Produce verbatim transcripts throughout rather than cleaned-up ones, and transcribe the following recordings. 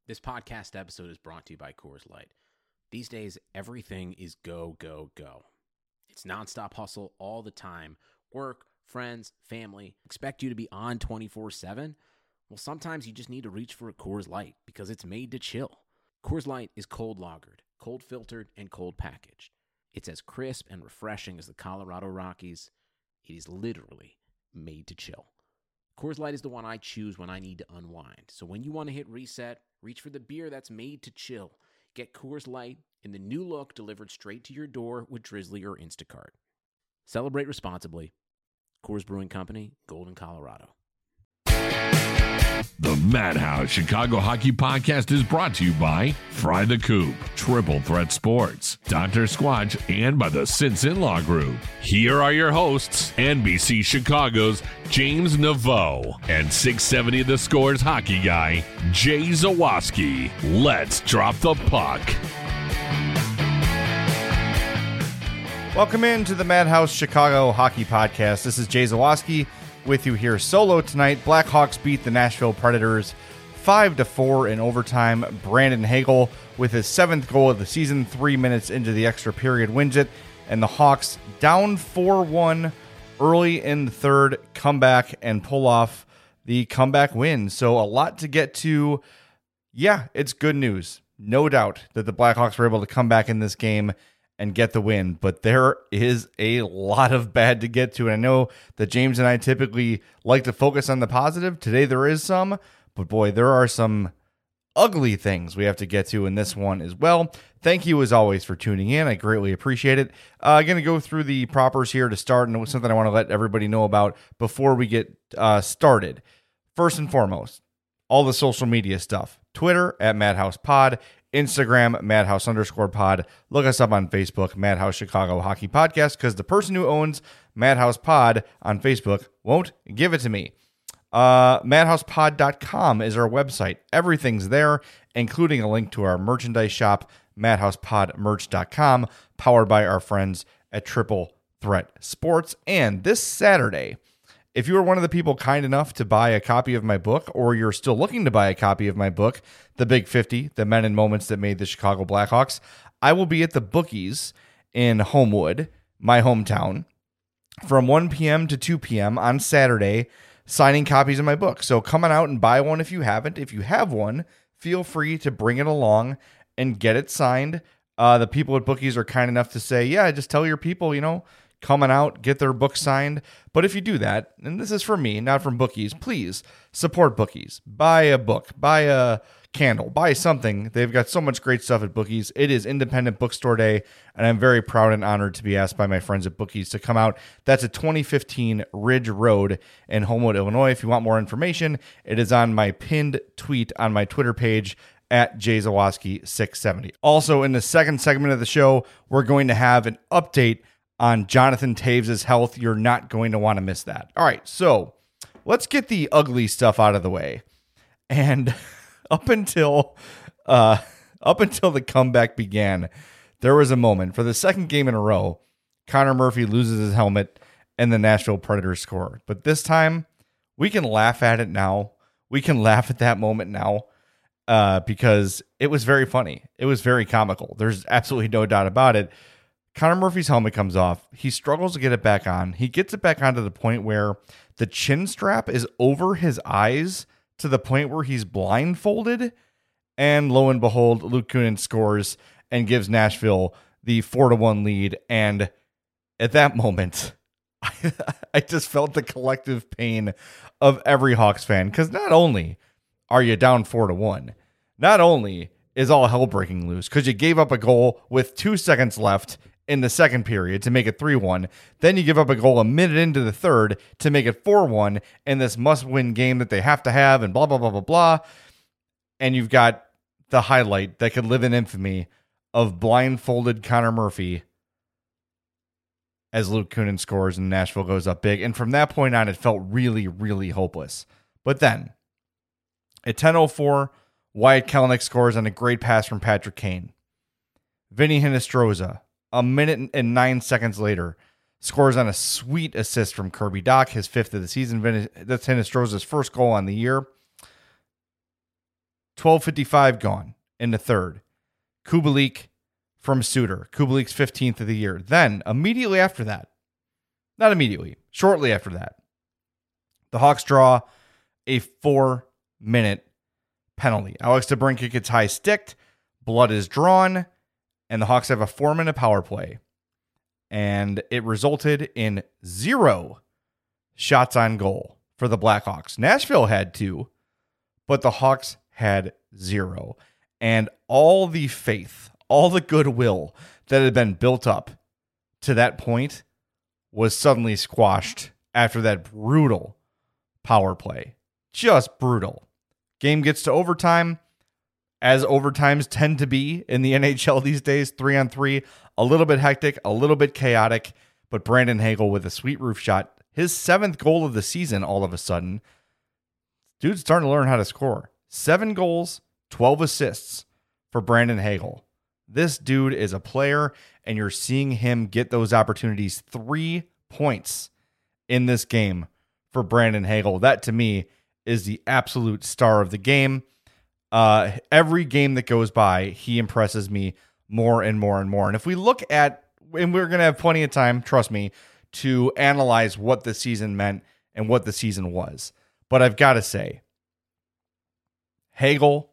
This podcast episode is brought to you by Coors Light. These days, everything is go, go, go. It's nonstop hustle all the time. Work, friends, family, expect you to be on twenty-four seven. Well, sometimes you just need to reach for a Coors Light because it's made to chill. Coors Light is cold lagered, cold filtered, and cold packaged. It's as crisp and refreshing as the Colorado Rockies. It is literally made to chill. Coors Light is the one I choose when I need to unwind. So when you want to hit reset, reach for the beer that's made to chill. Get Coors Light in the new look delivered straight to your door with Drizzly or Instacart. Celebrate responsibly. Coors Brewing Company, Golden, Colorado. The Madhouse Chicago Hockey Podcast is brought to you by Fry the Coop, Triple Threat Sports, Doctor Squatch, and by the Sinson Law Group. Here are your hosts, N B C Chicago's James Naveau and six seventy The Score's hockey guy, Jay Zawaski. Let's drop the puck. Welcome in to the Madhouse Chicago Hockey Podcast. This is Jay Zawaski with you here solo tonight. Blackhawks beat the Nashville Predators five to four in overtime. Brandon Hagel with his seventh goal of the season, three minutes into the extra period, wins it. And the Hawks down four one early in the third, come back and pull off the comeback win. So a lot to get to. Yeah, it's good news. No doubt that the Blackhawks were able to come back in this game and get the win, but there is a lot of bad to get to. And I know that James and I typically like to focus on the positive. Today there is some, but boy, there are some ugly things we have to get to in this one as well. Thank you as always for tuning in. I greatly appreciate it. I'm uh, going to go through the propers here to start, and it was something I want to let everybody know about before we get uh, started. First and foremost, all the social media stuff. Twitter at Madhouse Pod. Instagram, Madhouse underscore pod. Look us up on Facebook, Madhouse Chicago Hockey Podcast, because the person who owns Madhouse Pod on Facebook won't give it to me. Uh, madhouse pod dot com is our website. Everything's there, including a link to our merchandise shop, madhouse pod merch dot com, powered by our friends at Triple Threat Sports. And this Saturday, if you are one of the people kind enough to buy a copy of my book, or you're still looking to buy a copy of my book, The Big fifty, The Men and Moments That Made the Chicago Blackhawks, I will be at the Bookies in Homewood, my hometown, from one p.m. to two p.m. on Saturday, signing copies of my book. So come on out and buy one if you haven't. If you have one, feel free to bring it along and get it signed. Uh, the people at Bookies are kind enough to say, yeah, just tell your people, you know, coming out, get their book signed. But if you do that, and this is from me, not from Bookies, please support Bookies. Buy a book, buy a candle, buy something. They've got so much great stuff at Bookies. It is Independent Bookstore Day, and I'm very proud and honored to be asked by my friends at Bookies to come out. That's at twenty fifteen Ridge Road in Homewood, Illinois. If you want more information, it is on my pinned tweet on my Twitter page, at Jay Zawaski six seventy. Also, in the second segment of the show, we're going to have an update on Jonathan Toews' health. You're not going to want to miss that. All right, so let's get the ugly stuff out of the way. And up until uh, up until the comeback began, there was a moment for the second game in a row, Connor Murphy loses his helmet and the Nashville Predators score. But this time, we can laugh at it now. We can laugh at that moment now uh, because it was very funny. It was very comical. There's absolutely no doubt about it. Connor Murphy's helmet comes off. He struggles to get it back on. He gets it back on to the point where the chin strap is over his eyes to the point where he's blindfolded. And lo and behold, Luke Kunin scores and gives Nashville the four to one lead. And at that moment, I, I just felt the collective pain of every Hawks fan. Because not only are you down four to one, not only is all hell breaking loose because you gave up a goal with two seconds left in the second period to make it three one. Then you give up a goal a minute into the third to make it four one in this must-win game that they have to have and blah, blah, blah, blah, blah. And you've got the highlight that could live in infamy of blindfolded Connor Murphy as Luke Kunin scores and Nashville goes up big. And from that point on, it felt really, really hopeless. But then, at ten oh four, Wyatt Kelenic scores on a great pass from Patrick Kane. Vinny Hinostroza, a minute and nine seconds later, scores on a sweet assist from Kirby Dach, his fifth of the season. That's Hinostroza's first goal on the year. twelve fifty-five gone in the third. Kubalik from Suter. Kubalik's fifteenth of the year. Then, immediately after that, not immediately, shortly after that, the Hawks draw a four-minute penalty. Alex DeBrincat gets high sticked, blood is drawn, and the Hawks have a four-minute power play. And it resulted in zero shots on goal for the Blackhawks. Nashville had two, but the Hawks had zero. And all the faith, all the goodwill that had been built up to that point was suddenly squashed after that brutal power play. Just brutal. Game gets to overtime, as overtimes tend to be in the N H L these days, three on three, a little bit hectic, a little bit chaotic, but Brandon Hagel with a sweet roof shot, his seventh goal of the season all of a sudden. Dude's starting to learn how to score. Seven goals, twelve assists for Brandon Hagel. This dude is a player, and you're seeing him get those opportunities. Three points in this game for Brandon Hagel. That, to me, is the absolute star of the game. Uh, every game that goes by, he impresses me more and more and more. And if we look at, and we're going to have plenty of time, trust me, to analyze what the season meant and what the season was. But I've got to say, Hagel,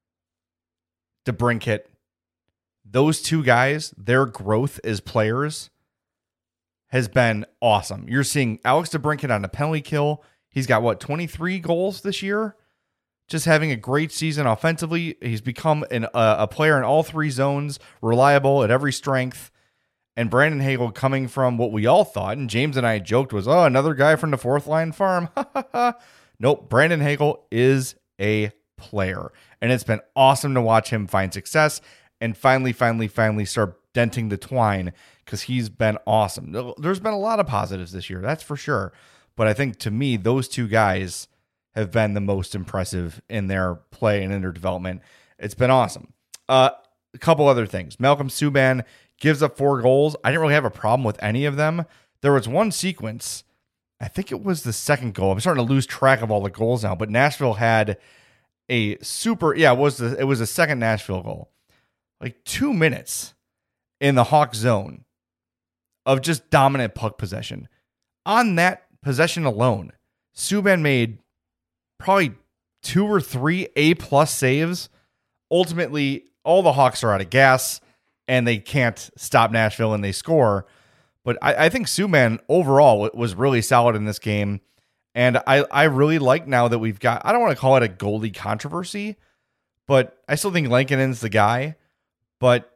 DeBrincat, those two guys, their growth as players has been awesome. You're seeing Alex DeBrincat on a penalty kill. He's got, what, twenty-three goals this year? Just having a great season offensively. He's become an, uh, a player in all three zones, reliable at every strength. And Brandon Hagel coming from what we all thought, and James and I joked was, oh, another guy from the fourth line farm. Nope, Brandon Hagel is a player. And it's been awesome to watch him find success and finally, finally, finally start denting the twine, because he's been awesome. There's been a lot of positives this year, that's for sure. But I think, to me, those two guys have been the most impressive in their play and in their development. It's been awesome. Uh, a couple other things. Malcolm Subban gives up four goals. I didn't really have a problem with any of them. There was one sequence, I think it was the second goal. I'm starting to lose track of all the goals now, but Nashville had a super, yeah, it was the, it was the second Nashville goal. Like two minutes in the Hawk zone of just dominant puck possession. On that possession alone, Subban made probably two or three A-plus saves. Ultimately, all the Hawks are out of gas, and they can't stop Nashville, and they score. But I, I think Subban overall was really solid in this game. And I, I really like now that we've got, I don't want to call it a goalie controversy, but I still think Lankinen's the guy. But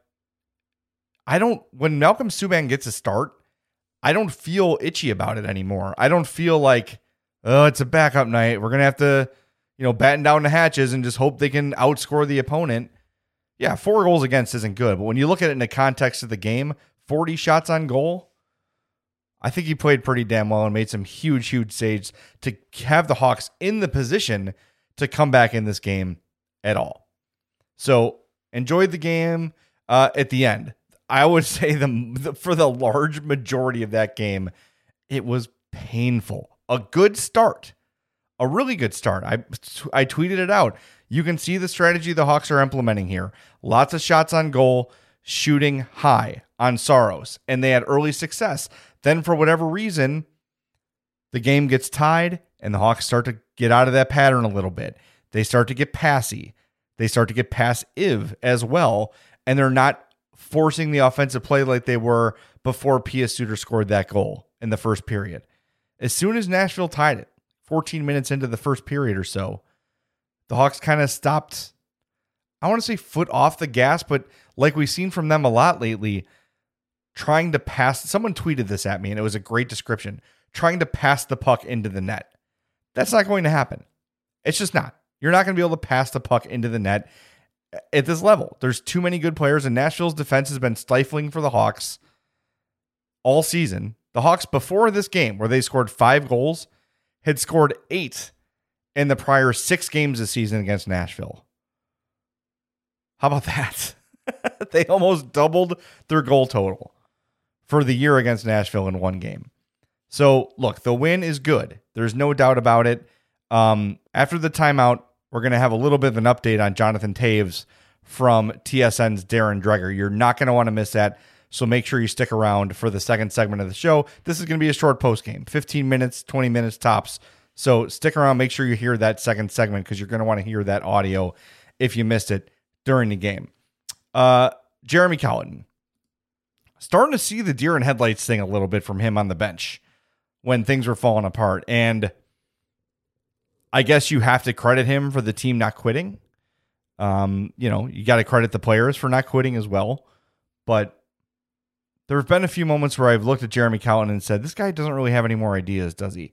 I don't, when Malcolm Subban gets a start, I don't feel itchy about it anymore. I don't feel like, oh, it's a backup night. We're going to have to, you know, batten down the hatches and just hope they can outscore the opponent. Yeah, four goals against isn't good. But when you look at it in the context of the game, forty shots on goal, I think he played pretty damn well and made some huge, huge saves to have the Hawks in the position to come back in this game at all. So enjoyed the game uh, at the end. I would say the, the for the large majority of that game, it was painful. A good start, a really good start. I I tweeted it out. You can see the strategy the Hawks are implementing here. Lots of shots on goal, shooting high on Saros, and they had early success. Then for whatever reason, the game gets tied, and the Hawks start to get out of that pattern a little bit. They start to get passy. They start to get passive as well, and they're not forcing the offensive play like they were before Pia Suter scored that goal in the first period. As soon as Nashville tied it, fourteen minutes into the first period or so, the Hawks kind of stopped, I want to say foot off the gas, but like we've seen from them a lot lately, trying to pass, someone tweeted this at me and it was a great description, trying to pass the puck into the net. That's not going to happen. It's just not. You're not going to be able to pass the puck into the net at this level. There's too many good players, and Nashville's defense has been stifling for the Hawks all season. The Hawks, before this game, where they scored five goals, had scored eight in the prior six games this season against Nashville. How about that? They almost doubled their goal total for the year against Nashville in one game. So, look, the win is good. There's no doubt about it. Um, after the timeout, we're going to have a little bit of an update on Jonathan Taves from T S N's Darren Dreger. You're not going to want to miss that, so make sure you stick around for the second segment of the show. This is going to be a short post game, fifteen minutes, twenty minutes tops. So stick around, make sure you hear that second segment because you're going to want to hear that audio if you missed it during the game. Uh, Jeremy Colliton. Starting to see the deer in headlights thing a little bit from him on the bench when things were falling apart. And I guess you have to credit him for the team not quitting. Um, you know, you got to credit the players for not quitting as well. But there have been a few moments where I've looked at Jeremy Colliton and said, this guy doesn't really have any more ideas, does he?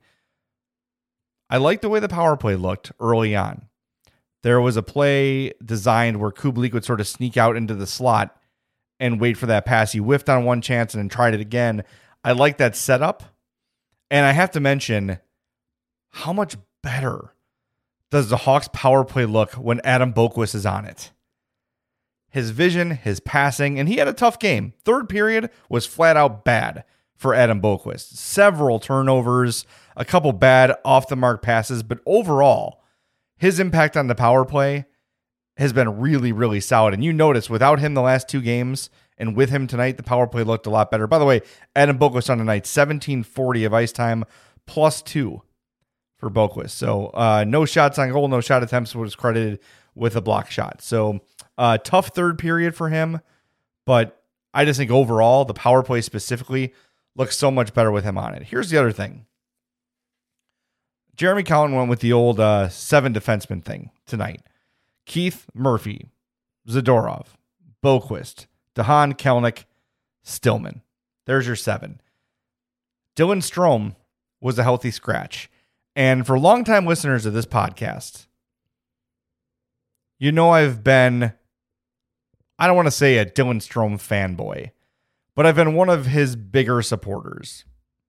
I like the way the power play looked early on. There was a play designed where Kubalik would sort of sneak out into the slot and wait for that pass. He whiffed on one chance and then tried it again. I like that setup. And I have to mention, how much better does the Hawks power play look when Adam Boqvist is on it? His vision, his passing, and he had a tough game. Third period was flat out bad for Adam Boqvist. Several turnovers, a couple bad off-the-mark passes, but overall, his impact on the power play has been really, really solid. And you notice without him the last two games and with him tonight, the power play looked a lot better. By the way, Adam Boqvist on tonight, seventeen forty of ice time, plus two for Boqvist. So uh, no shots on goal, no shot attempts, was credited with a block shot. So uh, tough third period for him, but I just think overall, the power play specifically looks so much better with him on it. Here's the other thing. Jeremy Colliton went with the old uh, seven defenseman thing tonight. Keith, Murphy, Zadorov, Boqvist, DeHaan, Kelenic, Stillman. There's your seven. Dylan Strome was a healthy scratch. And for longtime listeners of this podcast, you know I've been, I don't want to say a Dylan Strome fanboy, but I've been one of his bigger supporters.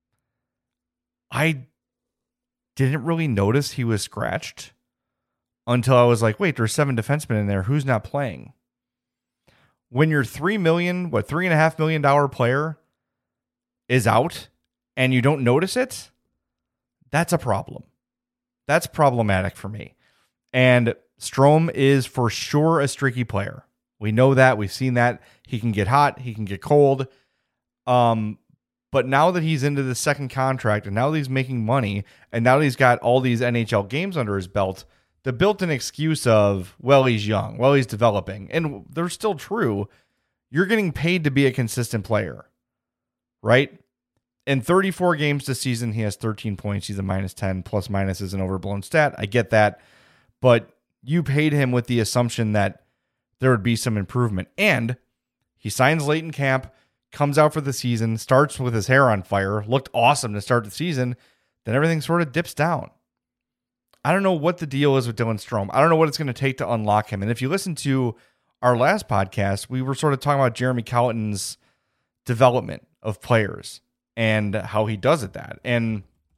I didn't really notice he was scratched until I was like, wait, there's seven defensemen in there. Who's not playing? When your three million, what, three and a half million dollar player is out and you don't notice it, that's a problem. That's problematic for me. And Strome is for sure a streaky player. We know that. We've seen that. He can get hot. He can get cold. Um, but now that he's into the second contract and now that he's making money and now that he's got all these N H L games under his belt, the built-in excuse of, well, he's young, well, he's developing, and they're still true. You're getting paid to be a consistent player, right? In thirty-four games this season, he has thirteen points. He's a minus ten. Plus minus is an overblown stat. I get that. But you paid him with the assumption that there would be some improvement. And he signs late in camp, comes out for the season, starts with his hair on fire, looked awesome to start the season, then everything sort of dips down. I don't know what the deal is with Dylan Strome. I don't know what it's going to take to unlock him. And if you listen to our last podcast, we were sort of talking about Jeremy Colliton's development of players and how he does it that. And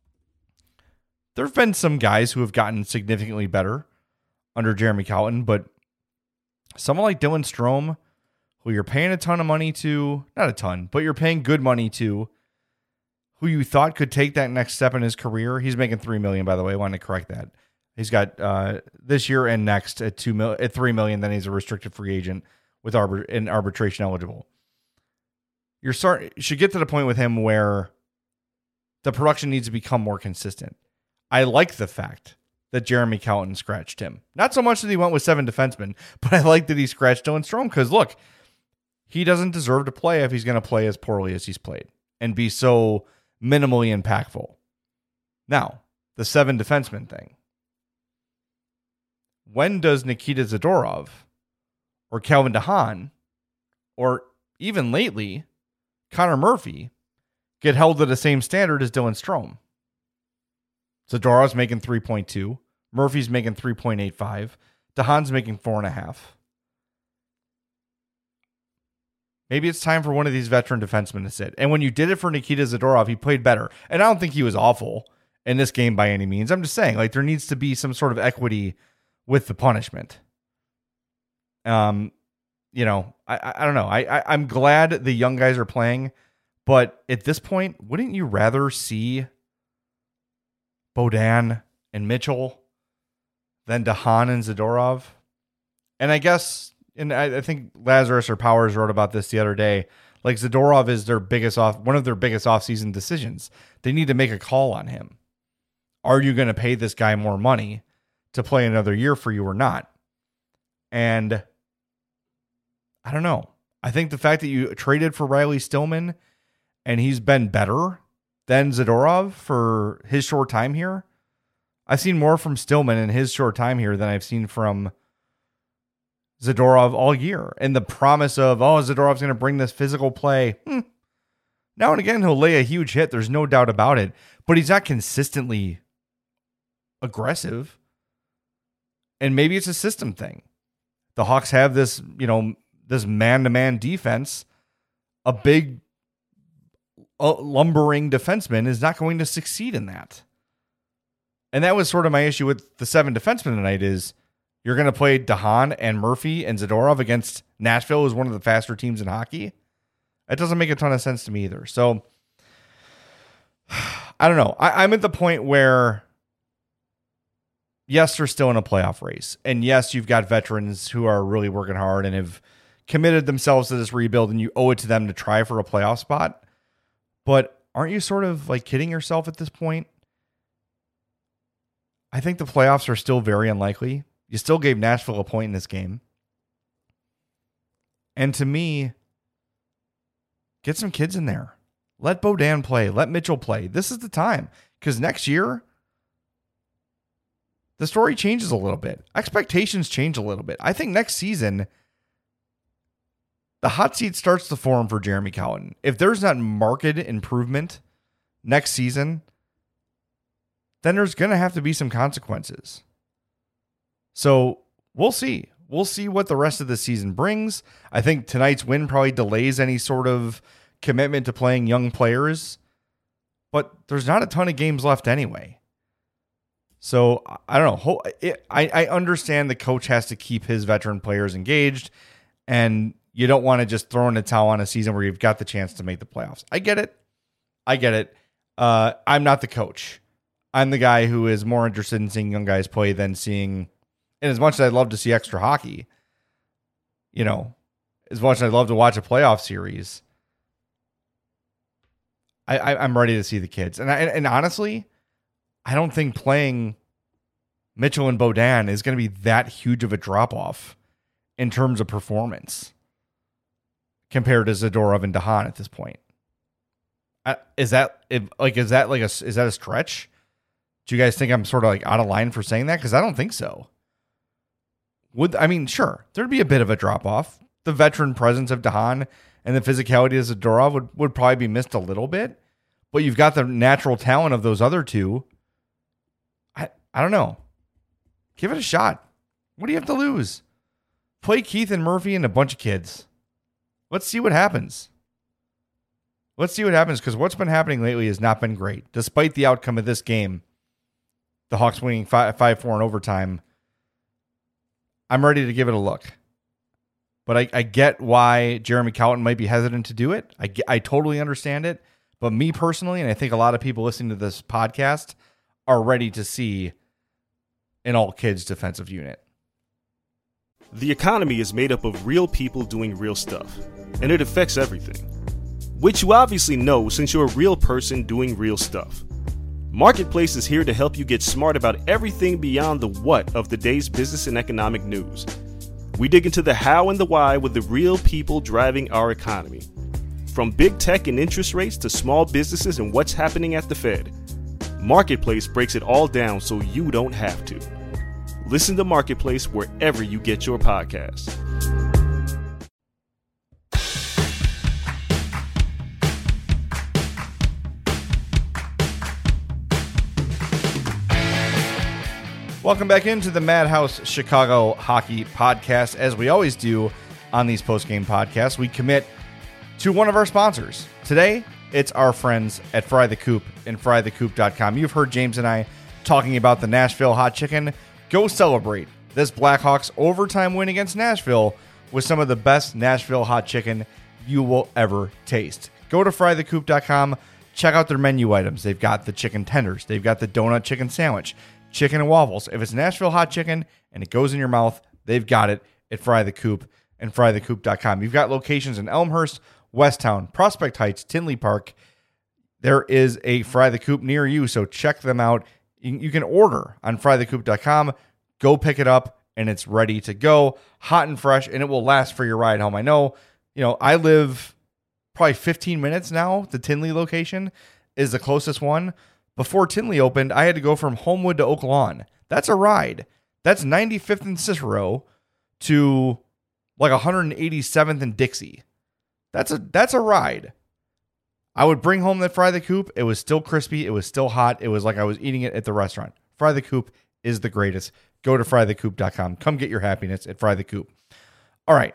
there have been some guys who have gotten significantly better under Jeremy Colliton, but someone like Dylan Strome, who you're paying a ton of money to, not a ton, but you're paying good money to, who you thought could take that next step in his career. He's making three million dollars, by the way. I wanted to correct that. He's got uh, this year and next at two mil at three million dollars. Then he's a restricted free agent with arbit- and arbitration eligible. You're start should get to the point with him where the production needs to become more consistent. I like the fact that Jeremy Colliton scratched him. Not so much that he went with seven defensemen, but I like that he scratched Dylan Strome because look, he doesn't deserve to play if he's going to play as poorly as he's played and be so minimally impactful. Now, the seven defenseman thing. When does Nikita Zadorov or Calvin DeHaan or even lately Connor Murphy get held to the same standard as Dylan Strome? Zadorov's making three point two. Murphy's making three point eight five. DeHaan's making four point five. Maybe it's time for one of these veteran defensemen to sit. And when you did it for Nikita Zadorov, he played better. And I don't think he was awful in this game by any means. I'm just saying, like, there needs to be some sort of equity with the punishment. Um, you know, I I, I don't know. I, I I'm glad the young guys are playing, but at this point, wouldn't you rather see Beaudin and Mitchell than DeHaan and Zadorov. And I guess, and I, I think Lazarus or Powers wrote about this the other day, like Zadorov is their biggest off, one of their biggest offseason decisions. They need to make a call on him. Are you going to pay this guy more money to play another year for you or not? And I don't know. I think the fact that you traded for Riley Stillman and he's been better than Zadorov for his short time here. I've seen more from Stillman in his short time here than I've seen from Zadorov all year. And the promise of, oh, Zadorov's going to bring this physical play. Hmm. Now and again, he'll lay a huge hit. There's no doubt about it. But he's not consistently aggressive. And maybe it's a system thing. The Hawks have this, you know, this man-to-man defense. A big, uh, lumbering defenseman is not going to succeed in that. And that was sort of my issue with the seven defensemen tonight is you're going to play DeHaan and Murphy and Zadorov against Nashville, who's one of the faster teams in hockey. That doesn't make a ton of sense to me either. So, I don't know. I, I'm at the point where, yes, they're still in a playoff race. And yes, you've got veterans who are really working hard and have committed themselves to this rebuild, and you owe it to them to try for a playoff spot. But aren't you sort of like kidding yourself at this point? I think the playoffs are still very unlikely. You still gave Nashville a point in this game. And to me, get some kids in there. Let Beaudin play. Let Mitchell play. This is the time. Because next year, the story changes a little bit. Expectations change a little bit. I think next season, the hot seat starts to form for Jeremy Colliton. If there's not marked improvement next season, then there's going to have to be some consequences. So we'll see. We'll see what the rest of the season brings. I think tonight's win probably delays any sort of commitment to playing young players, but there's not a ton of games left anyway. So I don't know. I, I understand the coach has to keep his veteran players engaged, and you don't want to just throw in a towel on a season where you've got the chance to make the playoffs. I get it. I get it. Uh, I'm not the coach. I'm the guy who is more interested in seeing young guys play than seeing, and as much as I'd love to see extra hockey, you know, as much as I'd love to watch a playoff series, I, I, I'm ready to see the kids. And I, and honestly, I don't think playing Mitchell and Beaudin is going to be that huge of a drop-off in terms of performance compared to Zadorov and DeHaan at this point. I, is that like is that like a is that a stretch? Do you guys think I'm sort of like out of line for saying that? Because I don't think so. Would I mean, sure, there'd be a bit of a drop-off. The veteran presence of DeHaan and the physicality of Zadorov would, would probably be missed a little bit. But you've got the natural talent of those other two. I, I don't know. Give it a shot. What do you have to lose? Play Keith and Murphy and a bunch of kids. Let's see what happens. Let's see what happens, because what's been happening lately has not been great. Despite the outcome of this game, the Hawks winning five four in overtime, I'm ready to give it a look. But I, I get why Jeremy Colliton might be hesitant to do it. I, I totally understand it. But me personally, and I think a lot of people listening to this podcast, are ready to see an all-kids defensive unit. The economy is made up of real people doing real stuff, and it affects everything. Which you obviously know since you're a real person doing real stuff. Marketplace is here to help you get smart about everything beyond the what of the day's business and economic news. We dig into the how and the why with the real people driving our economy. From big tech and interest rates to small businesses and what's happening at the Fed. Marketplace breaks it all down so you don't have to. Listen to Marketplace wherever you get your podcasts. Welcome back into the Madhouse Chicago Hockey Podcast. As we always do on these post-game podcasts, we commit to one of our sponsors. Today, it's our friends at Fry the Coop and fry the coop dot com. You've heard James and I talking about the Nashville Hot Chicken. Go celebrate this Blackhawks overtime win against Nashville with some of the best Nashville Hot Chicken you will ever taste. Go to fry the coop dot com. Check out their menu items. They've got the chicken tenders. They've got the donut chicken sandwich. chicken and waffles. If it's Nashville hot chicken and it goes in your mouth, they've got it at Fry the Coop and fry the coop dot com. You've got locations in Elmhurst, Westtown, Prospect Heights, Tinley Park. There is a Fry the Coop near you, so check them out. You, you can order on fry the coop dot com. Go pick it up, and it's ready to go, hot and fresh, and it will last for your ride home. I know, you know, I live probably fifteen minutes now. The Tinley location is the closest one. Before Tinley opened, I had to go from Homewood to Oak Lawn. That's a ride. That's ninety-fifth and Cicero to like one hundred eighty-seventh and Dixie. That's a that's a ride. I would bring home that Fry the Coop. It was still crispy. It was still hot. It was like I was eating it at the restaurant. Fry the Coop is the greatest. Go to fry the coop dot com. Come get your happiness at Fry the Coop. All right.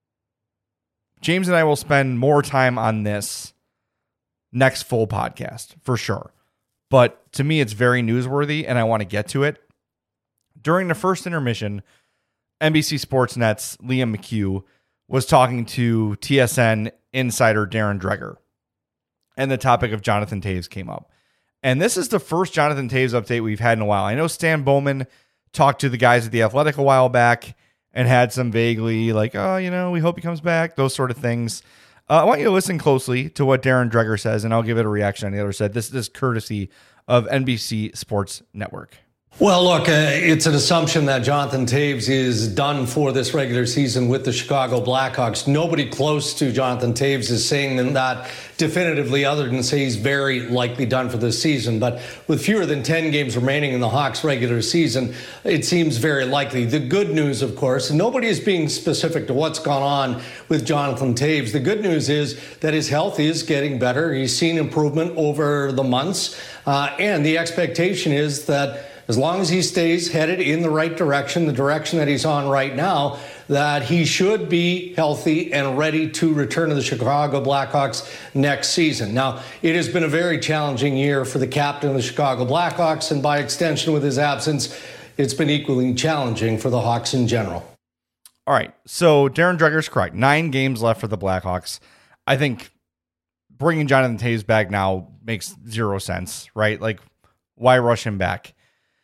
James and I will spend more time on this next full podcast for sure. But to me, it's very newsworthy, and I want to get to it. During the first intermission, N B C Sports Net's Liam McHugh was talking to T S N insider Darren Dreger, and the topic of Jonathan Toews came up. And this is the first Jonathan Toews update we've had in a while. I know Stan Bowman talked to the guys at The Athletic a while back and had some vaguely like, oh, you know, we hope he comes back, those sort of things. Uh, I want you to listen closely to what Darren Dreger says, and I'll give it a reaction on the other side. This, this is courtesy of N B C Sports Network. Well, look, uh, it's an assumption that Jonathan Toews is done for this regular season with the Chicago Blackhawks. Nobody close to Jonathan Toews is saying that definitively, other than say he's very likely done for this season. But with fewer than ten games remaining in the Hawks regular season, it seems very likely. The good news, of course, and nobody is being specific to what's gone on with Jonathan Toews. The good news is that his health is getting better. He's seen improvement over the months. Uh, and the expectation is that as long as he stays headed in the right direction, the direction that he's on right now, that he should be healthy and ready to return to the Chicago Blackhawks next season. Now, it has been a very challenging year for the captain of the Chicago Blackhawks, and by extension with his absence, it's been equally challenging for the Hawks in general. All right, so Darren Dreger's correct. Nine games left for the Blackhawks. I think bringing Jonathan Toews back now makes zero sense, right? Like, why rush him back?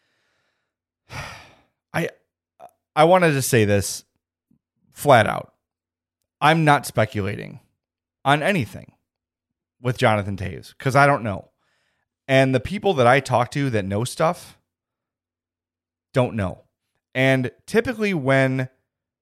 I I wanted to say this flat out. I'm not speculating on anything with Jonathan Toews because I don't know. And the people that I talk to that know stuff don't know. And typically when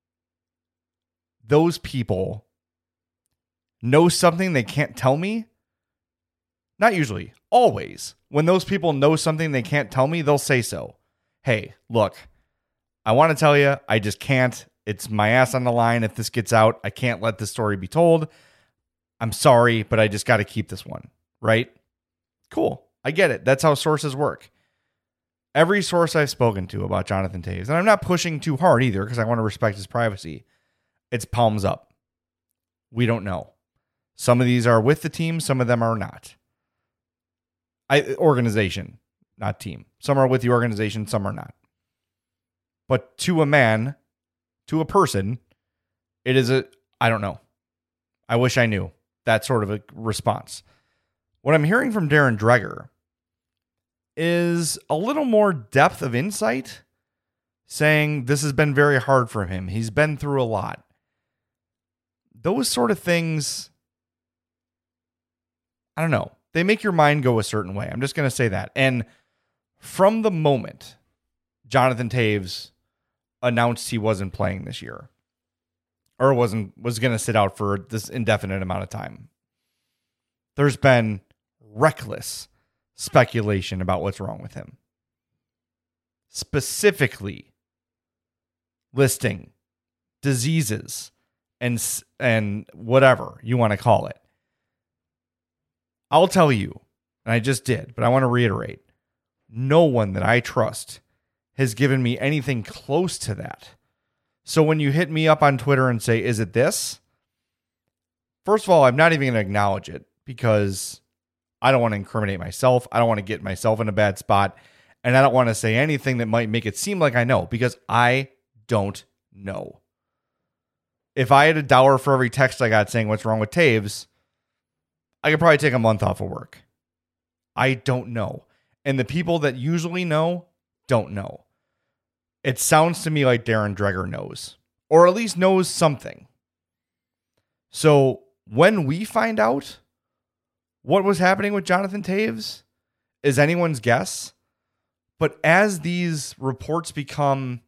those people know something they can't tell me, not usually, always, when those people know something they can't tell me, they'll say so. Hey, look, I want to tell you, I just can't. It's my ass on the line. If this gets out, I can't let this story be told. I'm sorry, but I just got to keep this one, right? Cool. I get it. That's how sources work. Every source I've spoken to about Jonathan Toews, and I'm not pushing too hard either because I want to respect his privacy, it's palms up. We don't know. Some of these are with the team. Some of them are not. I organization. Not team. Some are with the organization, some are not. But to a man, to a person, it is a, I don't know. I wish I knew. That sort of a response. What I'm hearing from Darren Dreger is a little more depth of insight, saying this has been very hard for him. He's been through a lot. Those sort of things, I don't know. They make your mind go a certain way. I'm just going to say that. And from the moment Jonathan Toews announced he wasn't playing this year or wasn't was going to sit out for this indefinite amount of time, there's been reckless speculation about what's wrong with him. Specifically listing diseases and and whatever you want to call it. I'll tell you, and I just did, but I want to reiterate, no one that I trust has given me anything close to that. So when you hit me up on Twitter and say, is it this? First of all, I'm not even going to acknowledge it because I don't want to incriminate myself. I don't want to get myself in a bad spot. And I don't want to say anything that might make it seem like I know because I don't know. If I had a dollar for every text I got saying what's wrong with Toews, I could probably take a month off of work. I don't know. And the people that usually know don't know. It sounds to me like Darren Dreger knows, or at least knows something. So when we find out what was happening with Jonathan Toews is anyone's guess. But as these reports become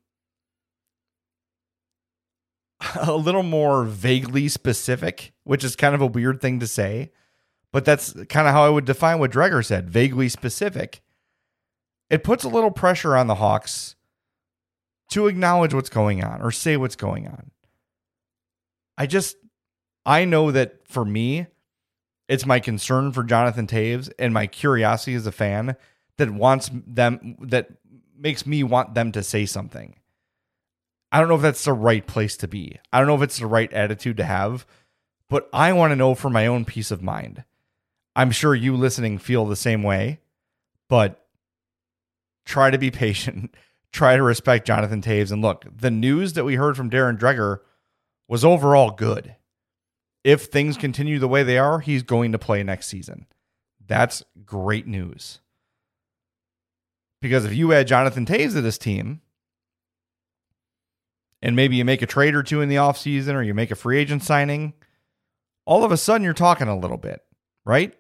a little more vaguely specific, which is kind of a weird thing to say, but that's kind of how I would define what Dreger said, vaguely specific. It puts a little pressure on the Hawks to acknowledge what's going on or say what's going on. I just, I know that for me, it's my concern for Jonathan Toews and my curiosity as a fan that wants them, that makes me want them to say something. I don't know if that's the right place to be. I don't know if it's the right attitude to have, but I want to know for my own peace of mind. I'm sure you listening feel the same way, but try to be patient. Try to respect Jonathan Toews. And look, the news that we heard from Darren Dreger was overall good. If things continue the way they are, he's going to play next season. That's great news. Because if you add Jonathan Toews to this team, and maybe you make a trade or two in the offseason, or you make a free agent signing, all of a sudden you're talking a little bit, right?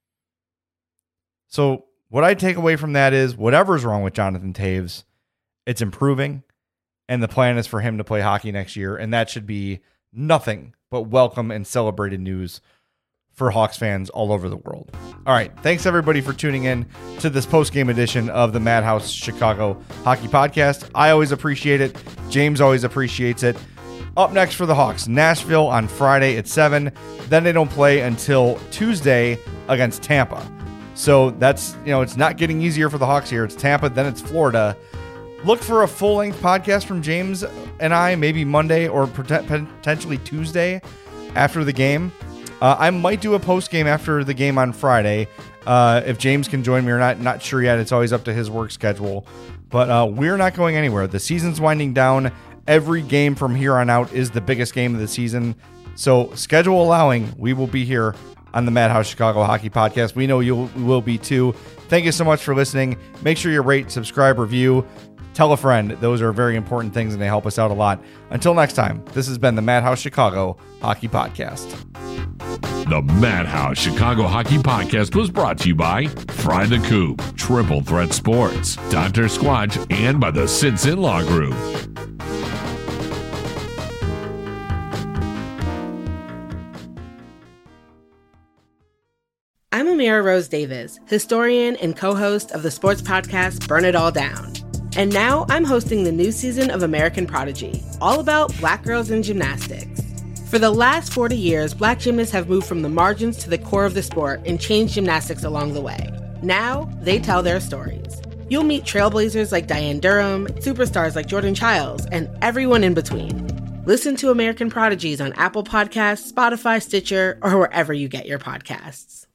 So what I take away from that is whatever's wrong with Jonathan Toews, it's improving, and the plan is for him to play hockey next year, and that should be nothing but welcome and celebrated news for Hawks fans all over the world. All right, thanks everybody for tuning in to this post-game edition of the Madhouse Chicago Hockey Podcast. I always appreciate it. James always appreciates it. Up next for the Hawks, Nashville on Friday at seven. Then they don't play until Tuesday against Tampa. So that's, you know, it's not getting easier for the Hawks here. It's Tampa, then it's Florida. Look for a full-length podcast from James and I, maybe Monday or potentially Tuesday after the game. Uh, I might do a post-game after the game on Friday. Uh, if James can join me or not, not sure yet. It's always up to his work schedule. But uh, we're not going anywhere. The season's winding down. Every game from here on out is the biggest game of the season. So schedule allowing, we will be here on the Madhouse Chicago Hockey Podcast. We know you will be too. Thank you so much for listening. Make sure you rate, subscribe, review. Tell a friend. Those are very important things, and they help us out a lot. Until next time, this has been the Madhouse Chicago Hockey Podcast. The Madhouse Chicago Hockey Podcast was brought to you by Fry the Coop, Triple Threat Sports, Doctor Squatch, and by the Sinson Law Group. I'm Amira Rose Davis, historian and co-host of the sports podcast Burn It All Down. And now I'm hosting the new season of American Prodigy, all about Black girls in gymnastics. For the last forty years, Black gymnasts have moved from the margins to the core of the sport and changed gymnastics along the way. Now, they tell their stories. You'll meet trailblazers like Diane Durham, superstars like Jordan Childs, and everyone in between. Listen to American Prodigies on Apple Podcasts, Spotify, Stitcher, or wherever you get your podcasts.